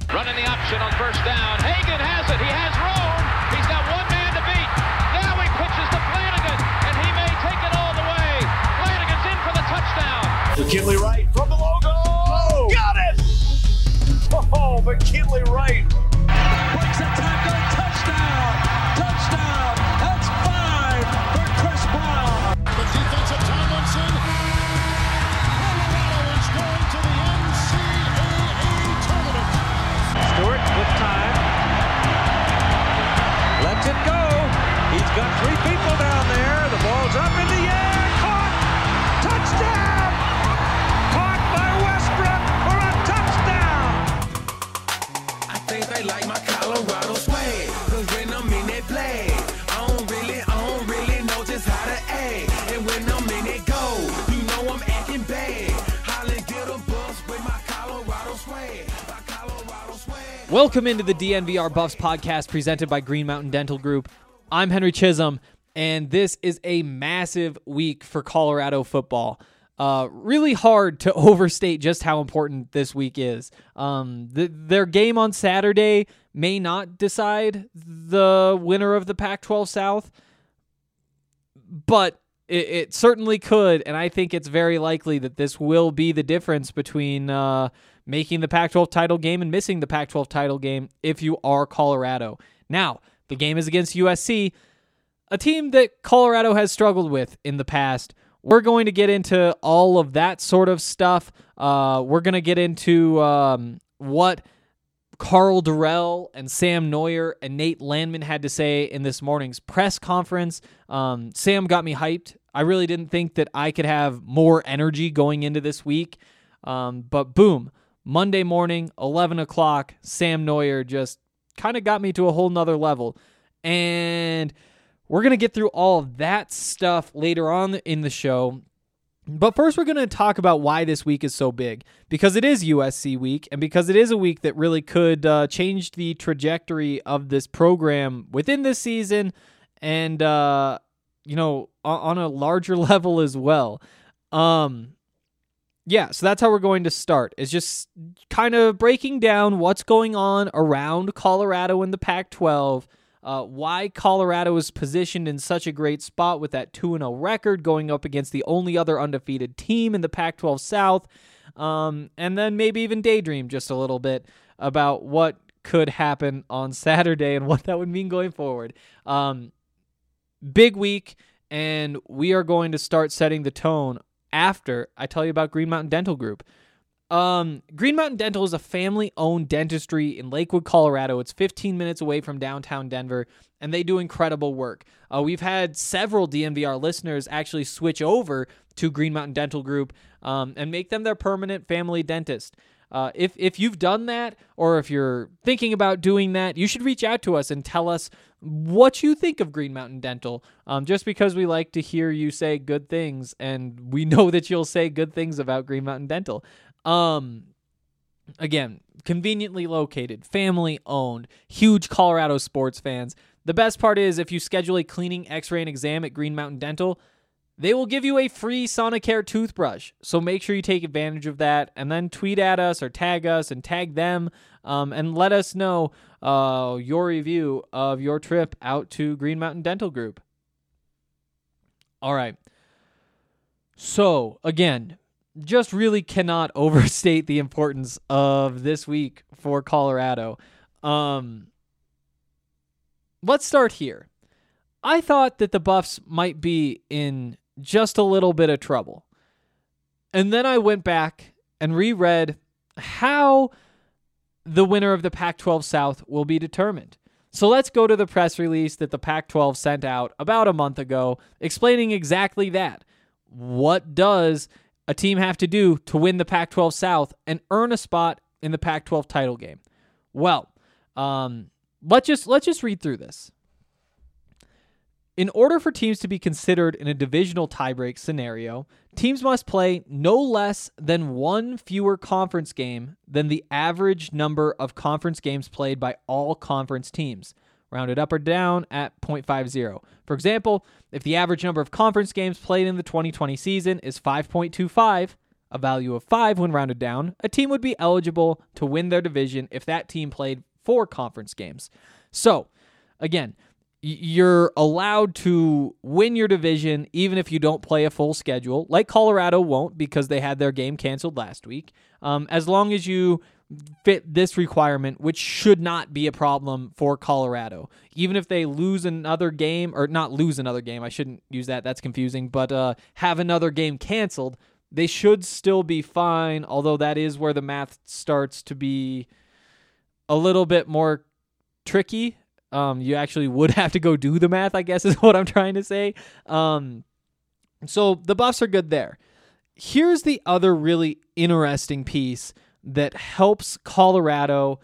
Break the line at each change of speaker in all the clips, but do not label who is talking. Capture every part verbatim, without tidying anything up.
Running the option on first down. Hagan has it. He has room. He's got one man to beat. Now he pitches to Flanagan, and he may take it all the way. Flanagan's in for the touchdown.
McKinley Wright from the logo. Oh, got it! Oh, McKinley Wright.
Breaks a tackle. Touchdown. Touchdown. That's five for Chris Brown.
The defensive Tomlinson. Colorado is going to the N C double A tournament.
Stewart with time. Lets it go. He's got three people down there. The ball's up in the air. Caught. Touchdown. Caught by Westbrook for a touchdown.
I think they like my Colorado swag. Cause when I'm in that play, I don't really, I don't really know just how to act. And when I'm in it go, you know I'm acting bad. Holland get a bus with my Colorado swag. My Colorado swag.
Welcome into the D N V R Buffs podcast presented by Green Mountain Dental Group. I'm Henry Chisholm, and this is a massive week for Colorado football. Uh, really hard to overstate just how important this week is. Um, the, their game on Saturday may not decide the winner of the Pac twelve South, but it, it certainly could, and I think it's very likely that this will be the difference between uh, making the Pac twelve title game and missing the Pac twelve title game if you are Colorado. Now, the game is against U S C, a team that Colorado has struggled with in the past. We're going to get into all of that sort of stuff. Uh, we're going to get into um, what Karl Dorrell and Sam Neuer and Nate Landman had to say in this morning's press conference. Um, Sam got me hyped. I really didn't think that I could have more energy going into this week. Um, but boom, Monday morning, eleven o'clock, Sam Neuer just kind of got me to a whole nother level. And we're going to get through all of that stuff later on in the show. But first, we're going to talk about why this week is so big. Because it is U S C week, and because it is a week that really could uh, change the trajectory of this program within this season and, uh, you know, on a larger level as well. Um, yeah, so that's how we're going to start, is just kind of breaking down what's going on around Colorado in the Pac twelve, Uh, why Colorado is positioned in such a great spot with that two and oh record going up against the only other undefeated team in the Pac twelve South, um, and then maybe even daydream just a little bit about what could happen on Saturday and what that would mean going forward. Um, big week, and we are going to start setting the tone after I tell you about Green Mountain Dental Group. Um, Green Mountain Dental is a family-owned dentistry in Lakewood, Colorado. It's fifteen minutes away from downtown Denver, and they do incredible work. Uh, we've had several D N V R listeners actually switch over to Green Mountain Dental Group um, and make them their permanent family dentist. Uh, if if you've done that, or if you're thinking about doing that, you should reach out to us and tell us what you think of Green Mountain Dental, um, just because we like to hear you say good things, and we know that you'll say good things about Green Mountain Dental. Um, again, conveniently located, family owned, huge Colorado sports fans. The best part is if you schedule a cleaning, x-ray, and exam at Green Mountain Dental, they will give you a free Sonicare toothbrush. So make sure you take advantage of that, and then tweet at us or tag us and tag them, um, and let us know uh, your review of your trip out to Green Mountain Dental Group. All right. So, again, just really cannot overstate the importance of this week for Colorado. Um, let's start here. I thought that the Buffs might be in just a little bit of trouble. And then I went back and reread how the winner of the Pac twelve South will be determined. So let's go to the press release that the Pac twelve sent out about a month ago, explaining exactly that. What does a team have to do to win the Pac twelve South and earn a spot in the Pac twelve title game? Well, um, let's just let's just read through this. In order for teams to be considered in a divisional tiebreak scenario, teams must play no less than one fewer conference game than the average number of conference games played by all conference teams, rounded up or down at zero point five zero. For example, if the average number of conference games played in the twenty twenty season is five point two five, a value of five when rounded down, a team would be eligible to win their division if that team played four conference games. So, again, you're allowed to win your division even if you don't play a full schedule, like Colorado won't because they had their game canceled last week, um, as long as you fit this requirement, which should not be a problem for Colorado. Even if they lose another game, or not lose another game, I shouldn't use that, that's confusing, but uh, have another game canceled, they should still be fine, although that is where the math starts to be a little bit more tricky. Um, you actually would have to go do the math, I guess is what I'm trying to say. Um, so the Buffs are good there. Here's the other really interesting piece that helps Colorado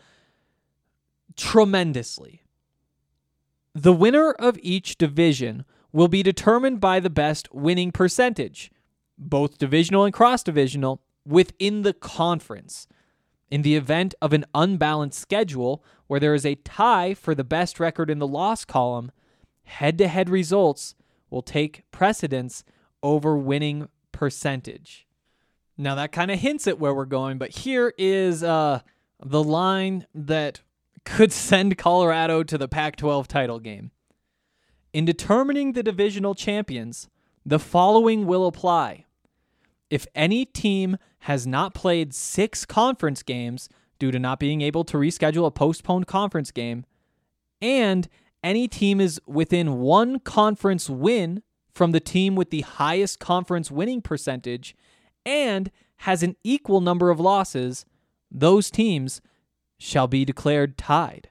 tremendously. The winner of each division will be determined by the best winning percentage, both divisional and cross-divisional, within the conference. In the event of an unbalanced schedule where there is a tie for the best record in the loss column, head-to-head results will take precedence over winning percentage. Now, that kind of hints at where we're going, but here is uh, the line that could send Colorado to the Pac twelve title game. In determining the divisional champions, the following will apply. If any team has not played six conference games due to not being able to reschedule a postponed conference game, and any team is within one conference win from the team with the highest conference winning percentage, and has an equal number of losses, those teams shall be declared tied.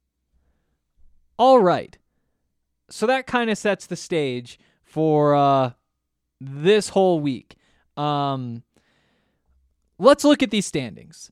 All right. So that kind of sets the stage for uh, this whole week. Um, let's look at these standings.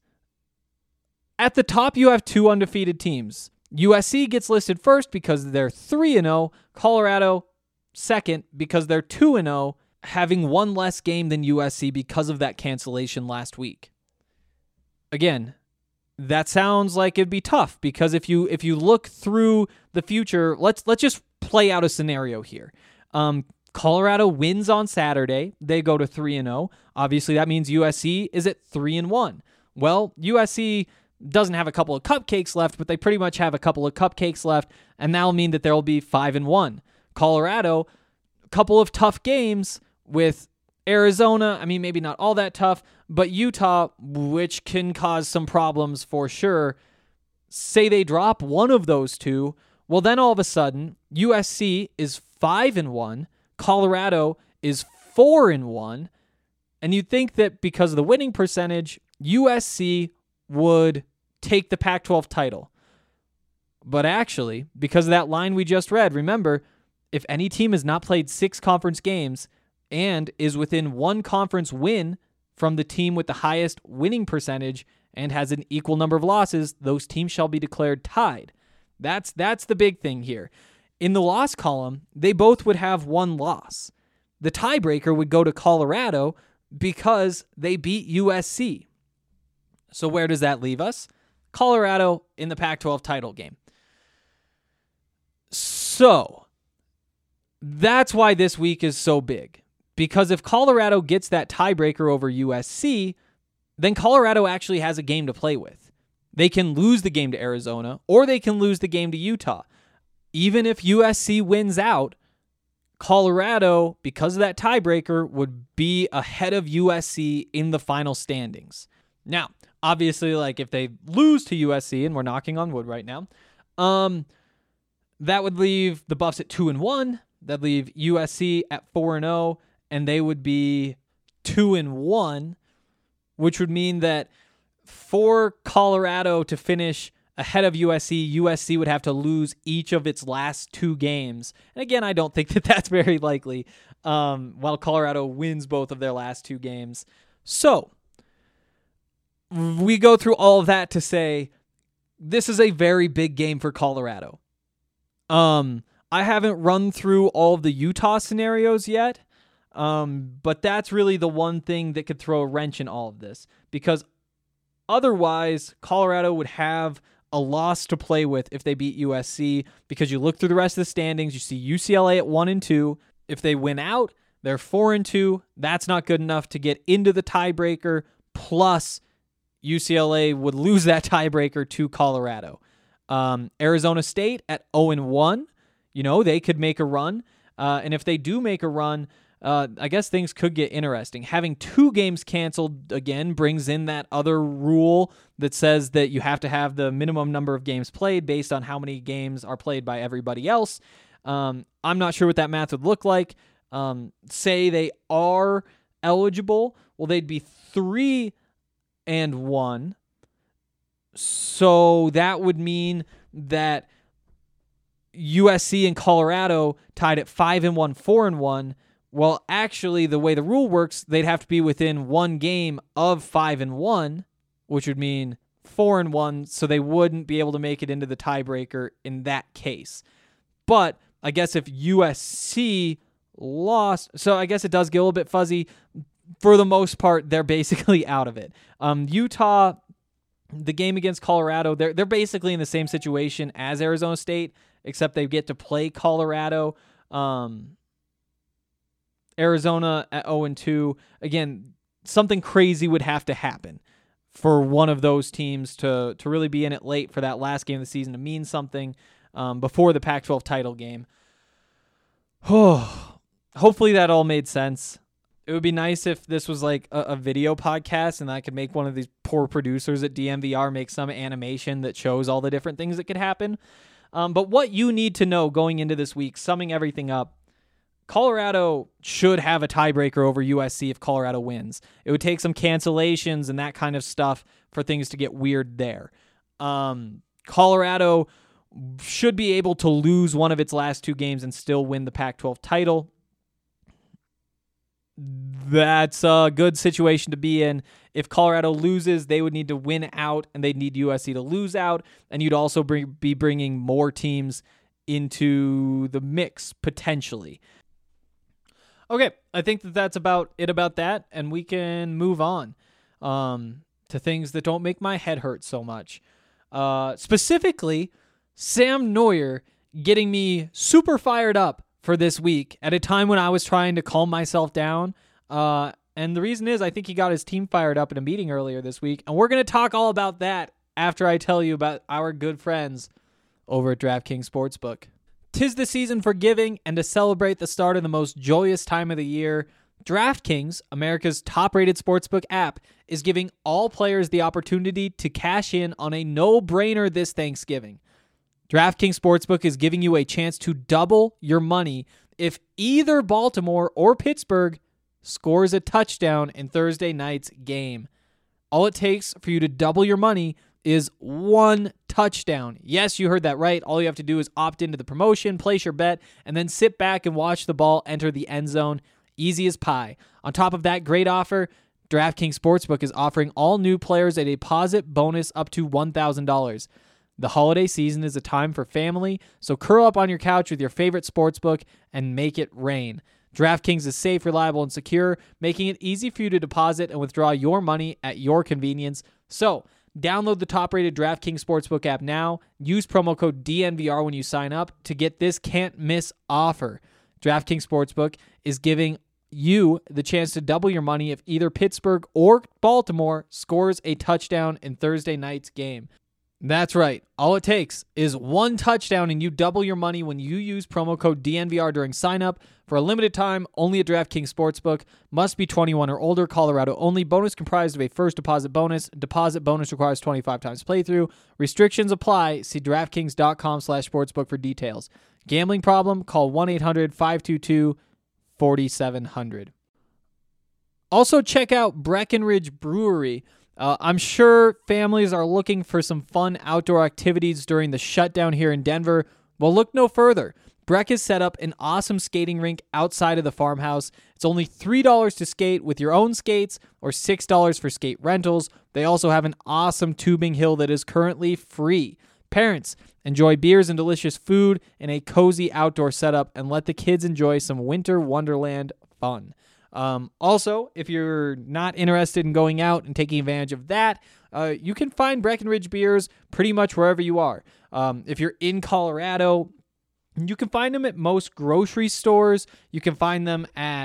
At the top, you have two undefeated teams. U S C gets listed first because they're three and oh. Colorado second because they're two and oh. Having one less game than U S C because of that cancellation last week. Again, that sounds like it'd be tough because if you if you look through the future, let's let's just play out a scenario here. Um, Colorado wins on Saturday, they go to three and oh. Obviously, that means U S C is at three and one. Well, U S C doesn't have a couple of cupcakes left, but they pretty much have a couple of cupcakes left, and that'll mean that there'll be five and one. Colorado, a couple of tough games with Arizona, I mean, maybe not all that tough, but Utah, which can cause some problems for sure. Say they drop one of those two, well, then all of a sudden, U S C is five and one, Colorado is four and one, and you'd think that because of the winning percentage, U S C would take the Pac twelve title. But actually, because of that line we just read, remember, if any team has not played six conference games and is within one conference win from the team with the highest winning percentage and has an equal number of losses, those teams shall be declared tied. That's that's the big thing here. In the loss column, they both would have one loss. The tiebreaker would go to Colorado because they beat U S C. So where does that leave us? Colorado in the Pac twelve title game. So that's why this week is so big. Because if Colorado gets that tiebreaker over U S C, then Colorado actually has a game to play with. They can lose the game to Arizona, or they can lose the game to Utah. Even if U S C wins out, Colorado, because of that tiebreaker, would be ahead of U S C in the final standings. Now, obviously, like if they lose to U S C, and we're knocking on wood right now, um, that would leave the Buffs at two and one. That'd leave U S C at four and zero, and they would be two and one, which would mean that for Colorado to finish ahead of U S C, U S C would have to lose each of its last two games. And again, I don't think that that's very likely, um, while Colorado wins both of their last two games. So we go through all of that to say this is a very big game for Colorado. Um, I haven't run through all of the Utah scenarios yet, um, but that's really the one thing that could throw a wrench in all of this, because otherwise Colorado would have a loss to play with if they beat U S C, because you look through the rest of the standings, you see U C L A at one and two. If they win out, They're four and two. That's not good enough to get into the tiebreaker. Plus, U C L A would lose that tiebreaker to Colorado. Um, Arizona State at oh and one. You know, they could make a run. Uh, and if they do make a run, uh, I guess things could get interesting. Having two games canceled again brings in that other rule that says that you have to have the minimum number of games played based on how many games are played by everybody else. Um, I'm not sure what that math would look like. Um, say they are eligible. Well, they'd be three and one. So that would mean that U S C and Colorado tied at five and one, four and one. Well, actually, the way the rule works, they'd have to be within one game of five and one, which would mean four and one. So they wouldn't be able to make it into the tiebreaker in that case. But I guess if U S C lost, so I guess it does get a little bit fuzzy. For the most part, they're basically out of it. Um, Utah, the game against Colorado, they're they're basically in the same situation as Arizona State, except they get to play Colorado. Um, Arizona at oh and two. Again, something crazy would have to happen for one of those teams to, to really be in it late for that last game of the season to mean something um, before the Pac twelve title game. Oh, hopefully that all made sense. It would be nice if this was like a, a video podcast and I could make one of these poor producers at D M V R make some animation that shows all the different things that could happen. Um, but what you need to know going into this week, summing everything up, Colorado should have a tiebreaker over U S C if Colorado wins. It would take some cancellations and that kind of stuff for things to get weird there. Um, Colorado should be able to lose one of its last two games and still win the Pac twelve title. That's a good situation to be in. If Colorado loses, they would need to win out, and they'd need U S C to lose out, and you'd also bring, be bringing more teams into the mix, potentially. Okay, I think that that's about it about that, and we can move on um, to things that don't make my head hurt so much. Uh, specifically, Sam Neuer getting me super fired up for this week at a time when I was trying to calm myself down. Uh, and the reason is I think he got his team fired up in a meeting earlier this week. And we're going to talk all about that after I tell you about our good friends over at DraftKings Sportsbook. 'Tis the season for giving, and to celebrate the start of the most joyous time of the year, DraftKings, America's top-rated sportsbook app, is giving all players the opportunity to cash in on a no-brainer this Thanksgiving. DraftKings Sportsbook is giving you a chance to double your money if either Baltimore or Pittsburgh scores a touchdown in Thursday night's game. All it takes for you to double your money is one touchdown. Yes, you heard that right. All you have to do is opt into the promotion, place your bet, and then sit back and watch the ball enter the end zone. Easy as pie. On top of that great offer, DraftKings Sportsbook is offering all new players a deposit bonus up to one thousand dollars. The holiday season is a time for family, so curl up on your couch with your favorite sportsbook and make it rain. DraftKings is safe, reliable, and secure, making it easy for you to deposit and withdraw your money at your convenience. So, download the top-rated DraftKings Sportsbook app now. Use promo code D N V R when you sign up to get this can't-miss offer. DraftKings Sportsbook is giving you the chance to double your money if either Pittsburgh or Baltimore scores a touchdown in Thursday night's game. That's right. All it takes is one touchdown and you double your money when you use promo code D N V R during sign-up. For a limited time, only at DraftKings Sportsbook. Must be twenty-one or older. Colorado only. Bonus comprised of a first deposit bonus. Deposit bonus requires twenty-five times playthrough. Restrictions apply. See DraftKings.com slash sportsbook for details. Gambling problem? Call one eight hundred five two two four seven zero zero. Also, check out Breckenridge Brewery. Uh, I'm sure families are looking for some fun outdoor activities during the shutdown here in Denver. Well, look no further. Breck has set up an awesome skating rink outside of the farmhouse. It's only three dollars to skate with your own skates or six dollars for skate rentals. They also have an awesome tubing hill that is currently free. Parents, enjoy beers and delicious food in a cozy outdoor setup and let the kids enjoy some winter wonderland fun. Um, also, if you're not interested in going out and taking advantage of that, uh, you can find Breckenridge beers pretty much wherever you are. Um, if you're in Colorado, you can find them at most grocery stores. You can find them at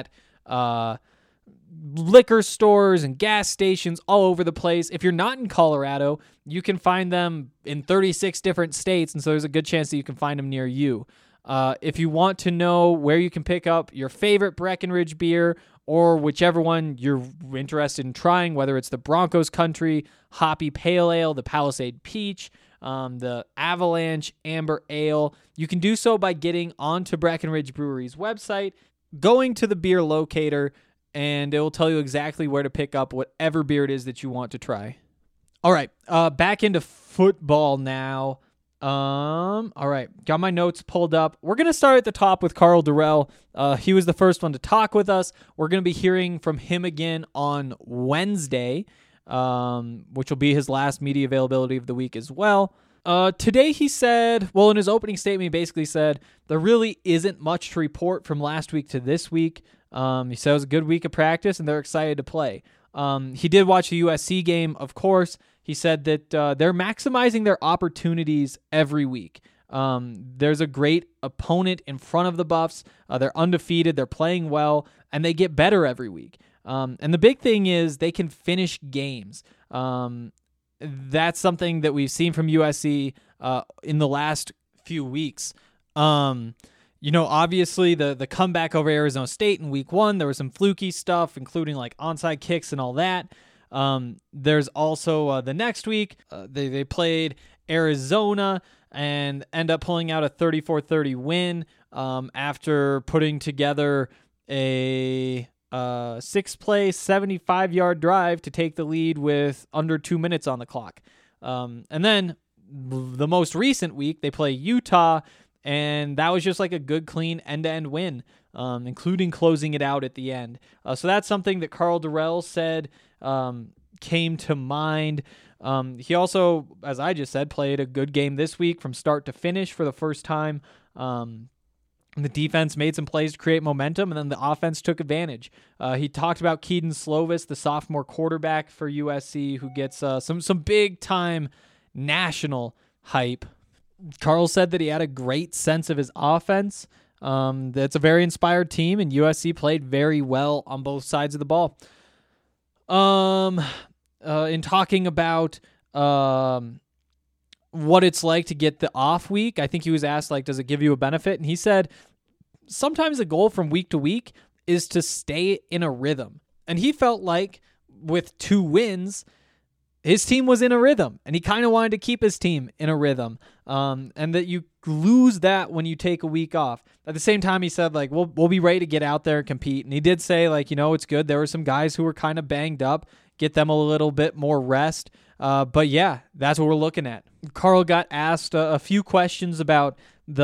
uh, liquor stores and gas stations all over the place. If you're not in Colorado, you can find them in thirty-six different states, and so there's a good chance that you can find them near you. Uh, if you want to know where you can pick up your favorite Breckenridge beer or whichever one you're interested in trying, whether it's the Broncos Country Hoppy Pale Ale, the Palisade Peach, um, the Avalanche Amber Ale, you can do so by getting onto Breckenridge Brewery's website, going to the beer locator, and it will tell you exactly where to pick up whatever beer it is that you want to try. All right, uh, back into football now. Um, all right, got my notes pulled up. We're going to start at the top with Karl Dorrell. Uh, he was the first one to talk with us. We're going to be hearing from him again on Wednesday, um, which will be his last media availability of the week as well. Uh, today he said, well, in his opening statement, he basically said, there really isn't much to report from last week to this week. Um, he said it was a good week of practice, and they're excited to play. Um, he did watch the U S C game, of course. He said that uh, they're maximizing their opportunities every week. Um, there's a great opponent in front of the Buffs. Uh, they're undefeated. They're playing well, and they get better every week. Um, and the big thing is they can finish games. Um, that's something that we've seen from U S C uh, in the last few weeks. Um, you know, obviously the the comeback over Arizona State in week one, there was some fluky stuff, including like onside kicks and all that. Um, there's also uh, the next week, uh, they, they played Arizona and end up pulling out a thirty-four thirty win um, after putting together a uh, six-play, seventy-five-yard drive to take the lead with under two minutes on the clock. Um, and then the most recent week, they play Utah, and that was just like a good, clean end-to-end win, um, including closing it out at the end. Uh, so that's something that Karl Dorrell said um, came to mind. Um, he also, as I just said, played a good game this week from start to finish for the first time. Um, the defense made some plays to create momentum, and then the offense took advantage. Uh, he talked about Keaton Slovis, the sophomore quarterback for U S C, who gets uh, some some big-time national hype. Karl said that he had a great sense of his offense. Um, that's a very inspired team, and U S C played very well on both sides of the ball. Um, uh, in talking about um, what it's like to get the off week, I think he was asked, like, does it give you a benefit? And he said, sometimes the goal from week to week is to stay in a rhythm. And he felt like with two wins, his team was in a rhythm, and he kind of wanted to keep his team in a rhythm, um, and that you lose that when you take a week off. At the same time, he said, like, we'll, we'll be ready to get out there and compete. And he did say, like, you know, it's good. There were some guys who were kind of banged up, get them a little bit more rest. Uh, but, yeah, that's what we're looking at. Karl got asked a, a few questions about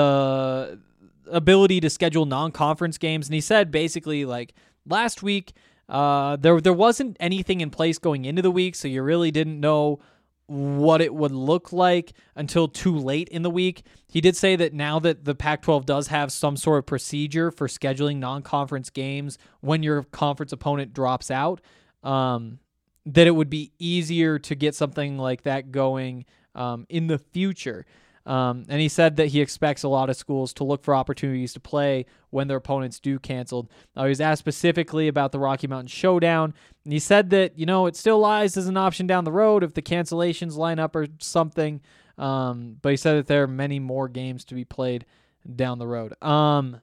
the ability to schedule non-conference games, and he said basically, like, last week, Uh, there there wasn't anything in place going into the week, so you really didn't know what it would look like until too late in the week. He did say that now that the Pac twelve does have some sort of procedure for scheduling non-conference games when your conference opponent drops out, um, that it would be easier to get something like that going um, in the future. Um, and he said that he expects a lot of schools to look for opportunities to play when their opponents do canceled. Uh, he was asked specifically about the Rocky Mountain Showdown, and he said that, you know, it still lies as an option down the road if the cancellations line up or something. Um, but he said that there are many more games to be played down the road. Um,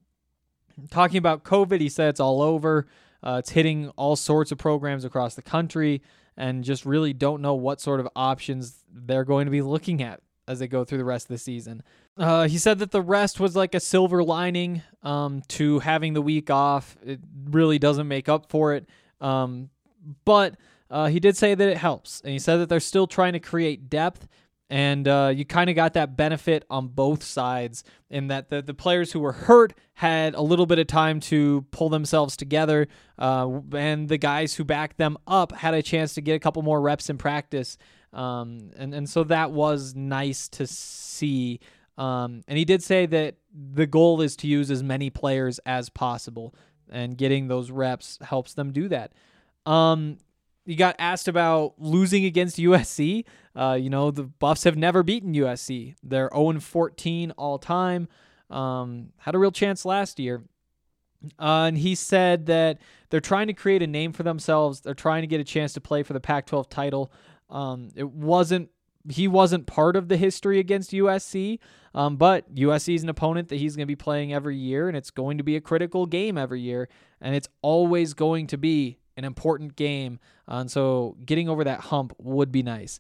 talking about COVID, he said it's all over. Uh, it's hitting all sorts of programs across the country, and just really don't know what sort of options they're going to be looking at as they go through the rest of the season. Uh, he said that the rest was like a silver lining um, to having the week off. It really doesn't make up for it. Um, but uh, he did say that it helps. And he said that they're still trying to create depth. And uh, you kind of got that benefit on both sides in that the, the players who were hurt had a little bit of time to pull themselves together. Uh, and the guys who backed them up had a chance to get a couple more reps in practice. Um, and, and so that was nice to see. Um, and he did say that the goal is to use as many players as possible, and getting those reps helps them do that. Um, you got asked about losing against U S C. Uh, you know, the Buffs have never beaten U S C. They're oh and fourteen all time. Um, had a real chance last year. Uh, and he said that they're trying to create a name for themselves. They're trying to get a chance to play for the Pac twelve title. Um, it wasn't he wasn't part of the history against U S C, um, but U S C is an opponent that he's going to be playing every year, and it's going to be a critical game every year, and it's always going to be an important game. Uh, and so getting over that hump would be nice.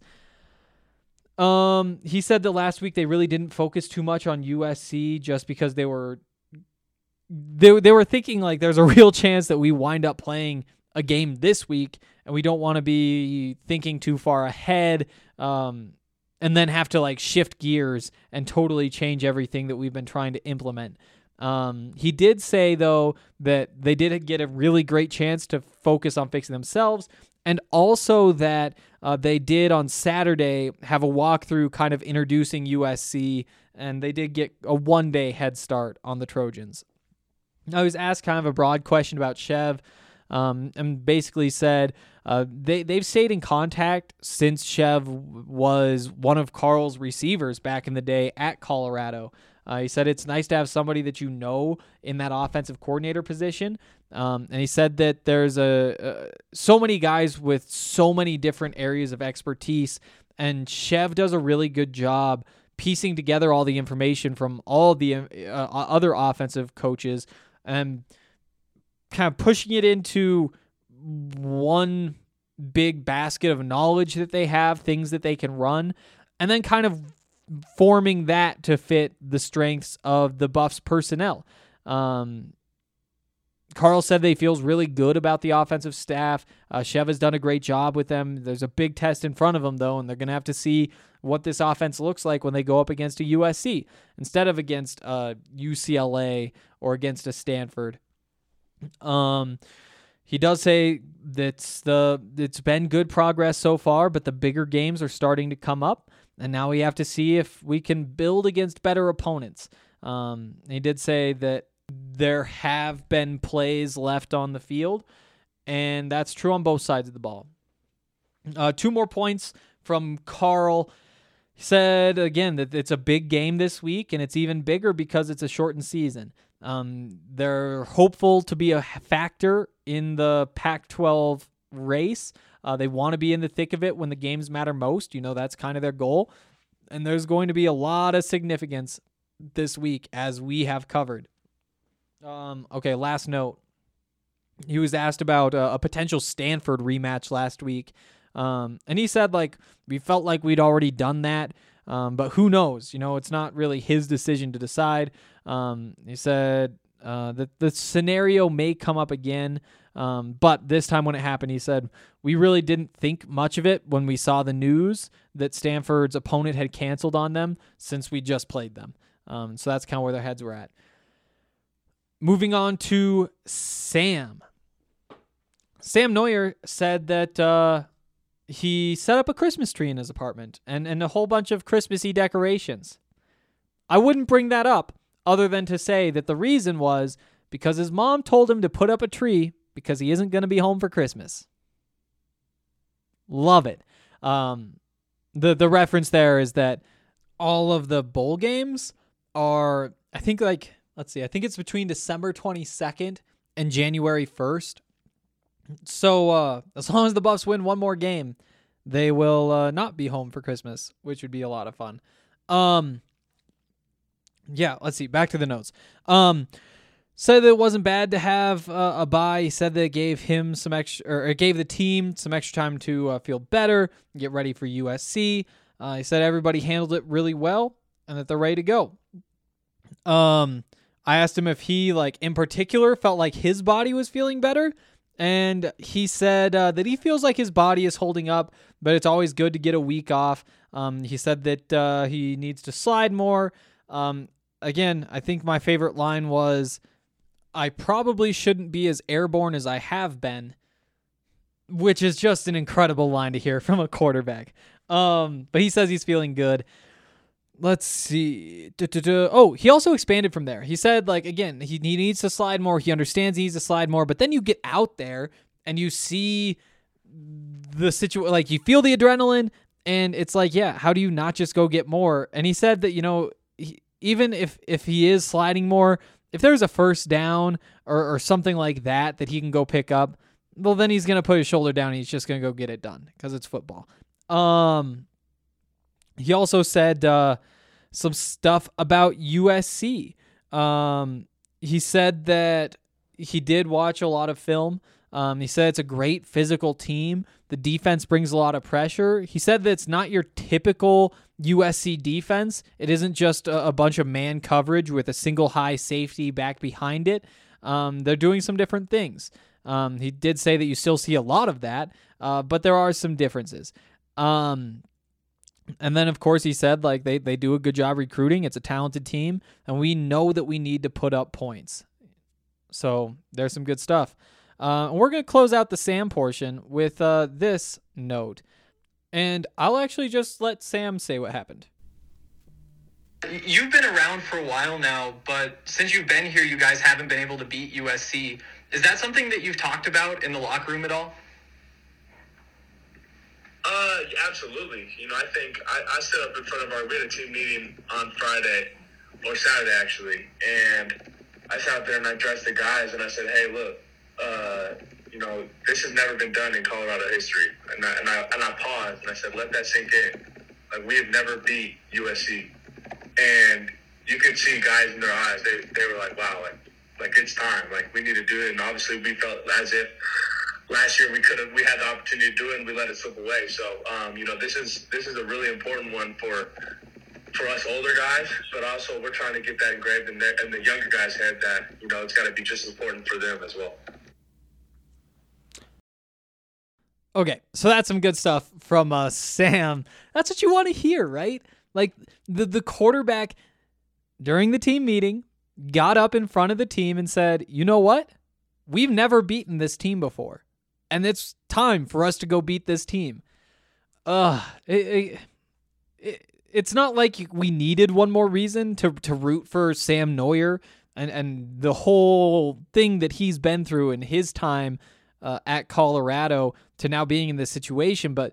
Um, he said that last week they really didn't focus too much on U S C just because they were they they were thinking like there's a real chance that we wind up playing a game this week, and we don't want to be thinking too far ahead, um, and then have to like shift gears and totally change everything that we've been trying to implement. Um, he did say though that they did get a really great chance to focus on fixing themselves, and also that uh, they did on Saturday have a walkthrough kind of introducing U S C, and they did get a one-day head start on the Trojans. I was asked kind of a broad question about Chev, um, and basically said uh, they, they've stayed in contact since Chev was one of Carl's receivers back in the day at Colorado. Uh, he said it's nice to have somebody that you know in that offensive coordinator position. Um, and he said that there's a, a so many guys with so many different areas of expertise, and Chev does a really good job piecing together all the information from all the uh, other offensive coaches and kind of pushing it into one big basket of knowledge that they have, things that they can run, and then kind of forming that to fit the strengths of the Buffs personnel. Um, Carl said that he feels really good about the offensive staff. Uh, Chev has done a great job with them. There's a big test in front of them, though, and they're going to have to see what this offense looks like when they go up against a U S C instead of against uh, U C L A or against a Stanford. Um, he does say that the it's been good progress so far, but the bigger games are starting to come up, and now we have to see if we can build against better opponents. Um, he did say that there have been plays left on the field, and that's true on both sides of the ball. Uh, two more points from Carl. He said, again, that it's a big game this week, and it's even bigger because it's a shortened season. Um, they're hopeful to be a factor in the Pac twelve race. Uh, they want to be in the thick of it when the games matter most. You know, that's kind of their goal. And there's going to be a lot of significance this week, as we have covered. Um, okay, last note. He was asked about uh, a potential Stanford rematch last week. Um, and he said, like, we felt like we'd already done that. Um, but who knows? You know, it's not really his decision to decide. Um, he said uh, that the scenario may come up again. Um, but this time when it happened, he said, we really didn't think much of it when we saw the news that Stanford's opponent had canceled on them since we just played them. Um, so that's kind of where their heads were at. Moving on to Sam. Sam Neuer said that uh, he set up a Christmas tree in his apartment and, and a whole bunch of Christmassy decorations. I wouldn't bring that up other than to say that the reason was because his mom told him to put up a tree because he isn't going to be home for Christmas. Love it. Um, the, the reference there is that all of the bowl games are, I think like, let's see, I think it's between December twenty-second and January first. So uh, as long as the Buffs win one more game, they will uh, not be home for Christmas, which would be a lot of fun. Um, yeah, let's see. Back to the notes. Um, said that it wasn't bad to have uh, a bye. He said that it gave him some extra, or it gave the team some extra time to uh, feel better, get ready for U S C. Uh, he said everybody handled it really well and that they're ready to go. Um, I asked him if he, like, in particular, felt like his body was feeling better. And he said uh, that he feels like his body is holding up, but it's always good to get a week off. Um, he said that uh, he needs to slide more. Um, again, I think my favorite line was, I probably shouldn't be as airborne as I have been, which is just an incredible line to hear from a quarterback. Um, but he says he's feeling good. Let's see. Da-da-da. Oh, he also expanded from there. He said, like, again, he, he needs to slide more. He understands he needs to slide more. But then you get out there and you see the situation, like, you feel the adrenaline, and it's like, yeah, how do you not just go get more? And he said that, you know, he, even if, if he is sliding more, if there's a first down or, or something like that that he can go pick up, well, then he's going to put his shoulder down and he's just going to go get it done because it's football. Um, he also said uh, some stuff about U S C. Um, he said that he did watch a lot of film. Um, he said it's a great physical team. The defense brings a lot of pressure. He said that it's not your typical U S C defense. It isn't just a, a bunch of man coverage with a single high safety back behind it. Um, they're doing some different things. Um, he did say that you still see a lot of that, uh, but there are some differences. Um, and then, of course, he said like they, they do a good job recruiting. It's a talented team, and we know that we need to put up points. So there's some good stuff. Uh, we're going to close out the Sam portion with uh, this note. And I'll actually just let Sam say what happened.
You've been around for a while now, but since you've been here, you guys haven't been able to beat U S C. Is that something that you've talked about in the locker room at all?
Uh, absolutely. You know, I think I, I stood up in front of our, we had a team meeting on Friday, or Saturday actually, and I sat there and I addressed the guys and I said, hey, look, uh, you know, this has never been done in Colorado history. And I, and I, and I paused and I said, let that sink in. Like, we have never beat U S C. And you could see guys in their eyes, they they were like, wow, like, like it's time. Like, we need to do it. And obviously we felt as if last year we could have, we had the opportunity to do it and we let it slip away. So, um, you know, this is, this is a really important one for, for us older guys, but also we're trying to get that engraved in, their, in the younger guys' head that, you know, it's got to be just as important for them as well.
Okay, so that's some good stuff from uh, Sam. That's what you want to hear, right? Like, the, the quarterback during the team meeting got up in front of the team and said, you know what? We've never beaten this team before, and it's time for us to go beat this team. Uh, it, it, it, it's not like we needed one more reason to, to root for Sam Neuer and, and the whole thing that he's been through in his time uh, at Colorado to now being in this situation, but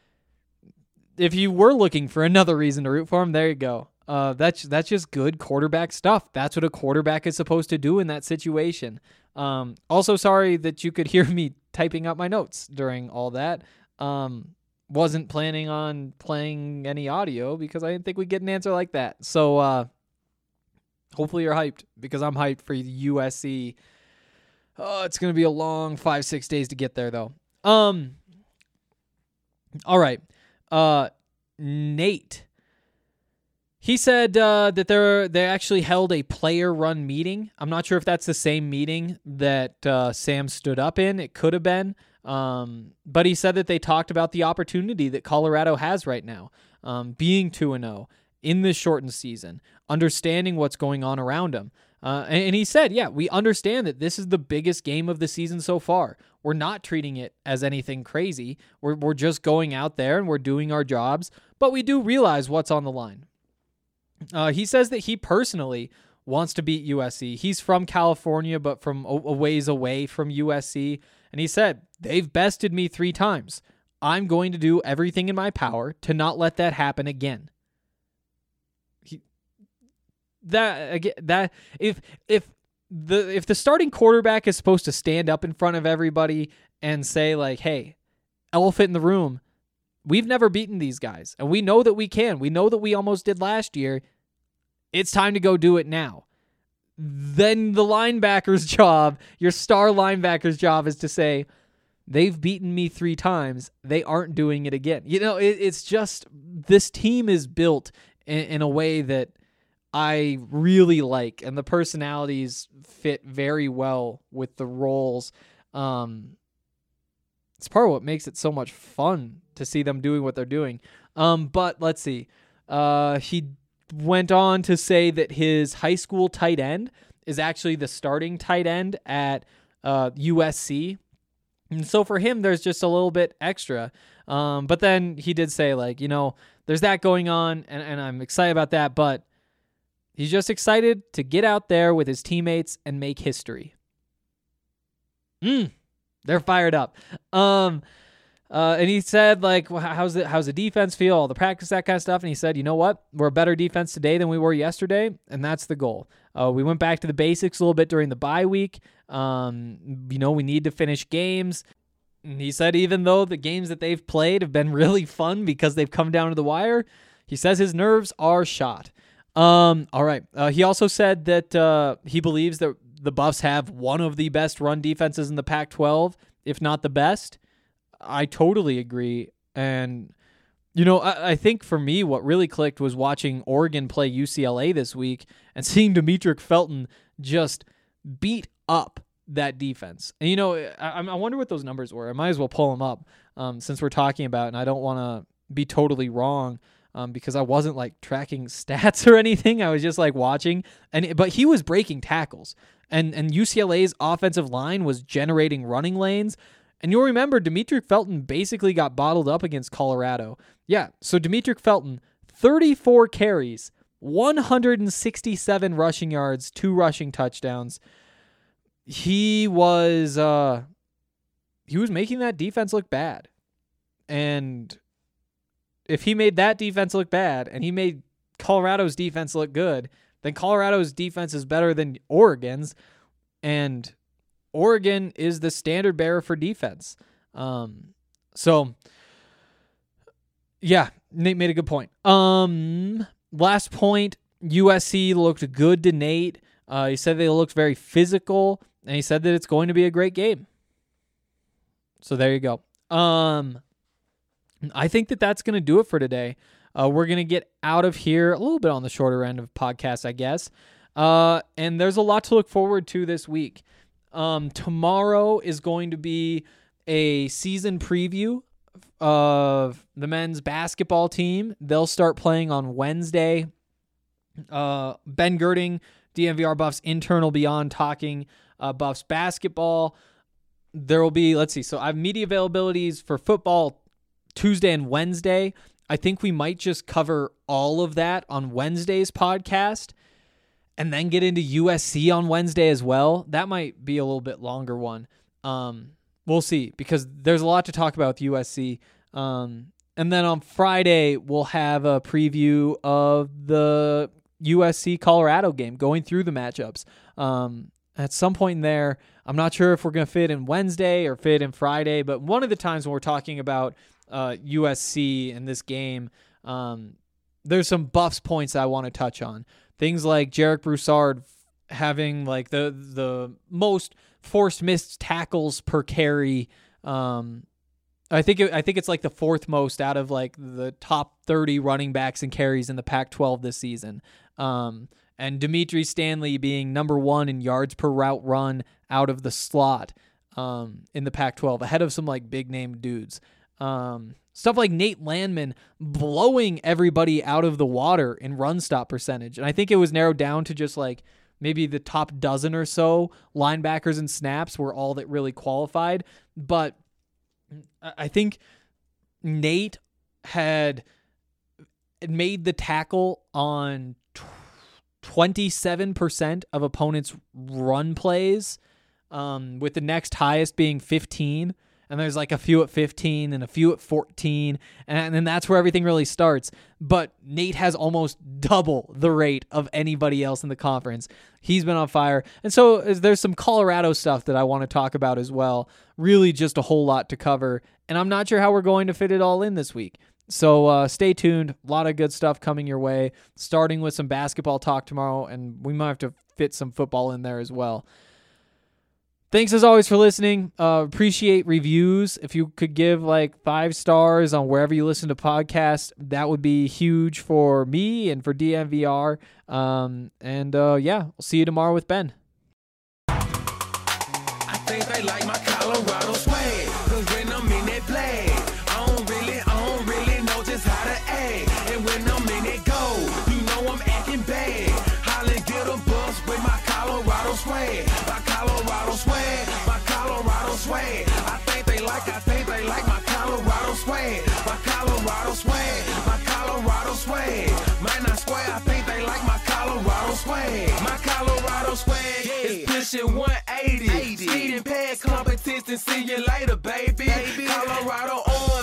if you were looking for another reason to root for him, there you go. Uh, that's that's just good quarterback stuff. That's what a quarterback is supposed to do in that situation. Um, also, sorry that you could hear me typing up my notes during all that. Um, wasn't planning on playing any audio because I didn't think we'd get an answer like that. So uh, hopefully you're hyped because I'm hyped for U S C. Oh, it's going to be a long five, six days to get there, though. Um. All right. Uh, Nate. He said uh, that they they actually held a player-run meeting. I'm not sure if that's the same meeting that uh, Sam stood up in. It could have been. Um, but he said that they talked about the opportunity that Colorado has right now, um, being two and oh in this shortened season, understanding what's going on around them. Uh, and, and he said, yeah, we understand that this is the biggest game of the season so far. We're not treating it as anything crazy. We're we're just going out there and we're doing our jobs, but we do realize what's on the line. Uh, he says that he personally wants to beat U S C. He's from California, but from a, a ways away from U S C. And he said, they've bested me three times. I'm going to do everything in my power to not let that happen again. He, that again, that if if the if the starting quarterback is supposed to stand up in front of everybody and say like, hey, elephant in the room, we've never beaten these guys, and we know that we can. We know that we almost did last year. It's time to go do it now. Then the linebacker's job, your star linebacker's job, is to say, they've beaten me three times. They aren't doing it again. You know, it, it's just, this team is built in, in a way that I really like, and the personalities fit very well with the roles. Um, it's part of what makes it so much fun to see them doing what they're doing. Um, but let's see. Uh, he went on to say that his high school tight end is actually the starting tight end at uh, U S C. And so for him, there's just a little bit extra. Um, but then he did say, like, you know, there's that going on, and, and I'm excited about that, but he's just excited to get out there with his teammates and make history. Mm, they're fired up. Um, Uh, and he said, like, well, how's the, how's the defense feel, all the practice, that kind of stuff. And he said, you know what? We're a better defense today than we were yesterday, and that's the goal. Uh, we went back to the basics a little bit during the bye week. Um, you know, we need to finish games. And he said even though the games that they've played have been really fun because they've come down to the wire, he says his nerves are shot. Um, all right. Uh, he also said that uh, he believes that the Buffs have one of the best run defenses in the Pac twelve, if not the best. I totally agree. And, you know, I, I think for me, what really clicked was watching Oregon play U C L A this week and seeing Demetric Felton just beat up that defense. And, you know, I, I wonder what those numbers were. I might as well pull them up um, since we're talking about it, and I don't want to be totally wrong um, because I wasn't, like, tracking stats or anything. I was just, like, watching. and But he was breaking tackles. And, and U C L A's offensive line was generating running lanes. And you'll remember Demetric Felton basically got bottled up against Colorado. Yeah, so Demetric Felton, thirty-four carries, one hundred sixty-seven rushing yards, two rushing touchdowns. He was uh, he was making that defense look bad. And if he made that defense look bad and he made Colorado's defense look good, then Colorado's defense is better than Oregon's. And Oregon is the standard bearer for defense. Um, so, yeah, Nate made a good point. Um, last point, U S C looked good to Nate. Uh, he said they looked very physical, and he said that it's going to be a great game. So there you go. Um, I think that that's going to do it for today. Uh, we're going to get out of here a little bit on the shorter end of podcasts, I guess. Uh, and there's a lot to look forward to this week. Um, tomorrow is going to be a season preview of the men's basketball team. They'll start playing on Wednesday. Uh, Ben Girding, D N V R Buffs intern, will be on talking uh, Buffs basketball. There will be, let's see, so I have media availabilities for football Tuesday and Wednesday. I think we might just cover all of that on Wednesday's podcast and then get into U S C on Wednesday as well. That might be a little bit longer one. Um, we'll see, because there's a lot to talk about with U S C. Um, and then on Friday, we'll have a preview of the U S C Colorado game, going through the matchups. Um, at some point in there, I'm not sure if we're going to fit in Wednesday or fit in Friday, but one of the times when we're talking about uh, U S C in this game, um, there's some Buffs points I want to touch on. Things like Jarek Broussard having like the the most forced missed tackles per carry. Um, I think it, I think it's like the fourth most out of like the top thirty running backs and carries in the Pac twelve this season. Um, and Dimitri Stanley being number one in yards per route run out of the slot um, in the Pac twelve, ahead of some like big name dudes. Um, Stuff like Nate Landman blowing everybody out of the water in run stop percentage. And I think it was narrowed down to just like maybe the top dozen or so linebackers and snaps were all that really qualified. But I think Nate had made the tackle on twenty-seven percent of opponents' run plays, um, with the next highest being fifteen. And there's like a few at fifteen and a few at fourteen. And then that's where everything really starts. But Nate has almost double the rate of anybody else in the conference. He's been on fire. And so there's some Colorado stuff that I want to talk about as well. Really just a whole lot to cover. And I'm not sure how we're going to fit it all in this week. So uh, stay tuned. A lot of good stuff coming your way, starting with some basketball talk tomorrow. And we might have to fit some football in there as well. Thanks as always for listening. Uh, appreciate reviews. If you could give like five stars on wherever you listen to podcasts, that would be huge for me and for D N V R. Um, and uh, yeah, we'll see you tomorrow with Ben.
I think they like my Colorado swag, cause when I'm in that play, I don't really, I don't really know just how to act. And when I'm in that go, you know I'm acting bad. Holla, get a bus with my Colorado swag. My Colorado swag, my Colorado swag. I think they like, I think they like my Colorado swag. My Colorado swag, my Colorado swag. Might not swear, I think they like my Colorado swag. My Colorado swag is pushing one eighty. Speeding past competition, see you later, baby. Colorado on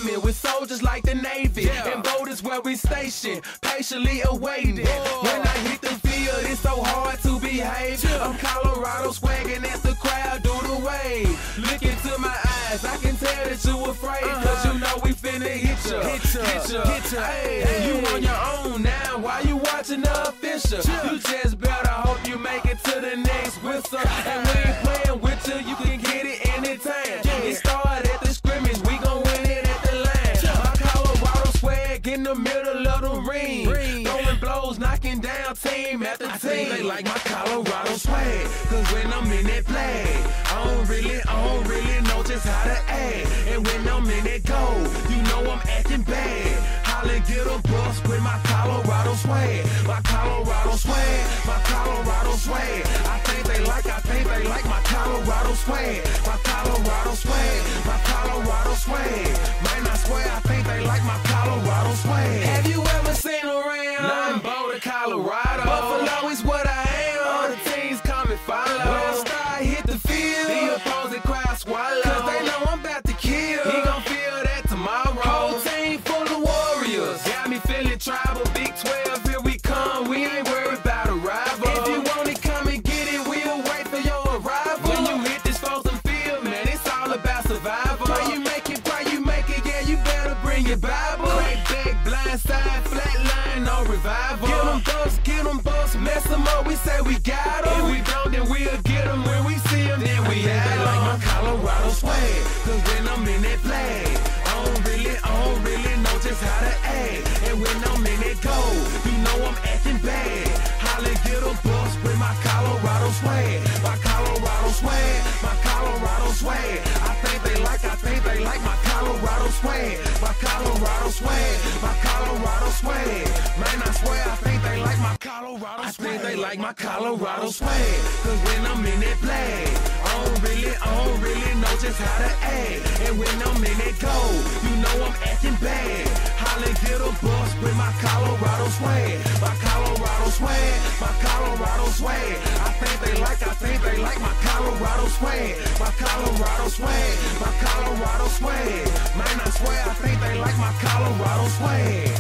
patient, patiently awaiting. When I hit the field, it's so hard to behave. I'm Colorado swagging as the crowd do the wave. Look into my eyes, I can tell that you afraid. Cause you know we finna hit ya, hit ya, hit ya, hit ya. Hey, you on your own now, why you watching the official? You just better hope you make it to the next whistle. And we ain't playing with you, you can get it anytime. It started at the scrimmage, we gon' win it at the line. My Colorado swag in the middle of the ring, throwing blows, knocking down team after team. I think they like my Colorado swag, cause when I'm in that play, I don't really, I don't really know just how to act. And when I'm in that goal, you know I'm acting bad. Holla, get a bus with my Colorado swag, my Colorado swag, my Colorado swag. I think they like, I think they like my Colorado swag, my Colorado swag, my Colorado swag. Man, I swear I think they like my Colorado swag. Have you ever seen around? Nah, I'm Boulder, Colorado. Buffalo is what I am. All the teams come and follow. When I start hit the field, the opposing crowd swallow. Cause they know I'm about to kill. He gon' feel that tomorrow. Whole team full of warriors. Got me feeling tribal. Big twelve, here we come. We ain't worried about a rival. If you want it, come and get it. We'll wait for your arrival. When you hit this frozen field, man, it's all about survival. Pray you make it, pray you make it. Yeah, you better bring your Bible. Crack back, blind side, flat line, no revival. Get them bucks, get them bucks, mess them up. We say we got them. If we don't, then we'll get them. When we see them, then we have them. Like my Colorado swag, cause when I'm in that flag, I don't really, I don't really know just how to act. And when I'm in that goal, you know I'm acting bad. Holla, get a bus with my Colorado swag, my Colorado swag, my Colorado swag. I think they like, I think they like my Colorado swag, my Colorado swag, my Colorado swag. Man, I swear I think they like my Colorado swag. I think they like my Colorado swag, cause when I'm in that flag, I don't really, I don't really know just how to act. And when I'm in that goal, you know I'm acting bad. Holla, get a bus with my Colorado swag, my Colorado swag, my Colorado swag. I think they like, I think they like my Colorado swag, my Colorado swag, my Colorado swag. Man, I swear I think they like my Colorado swag.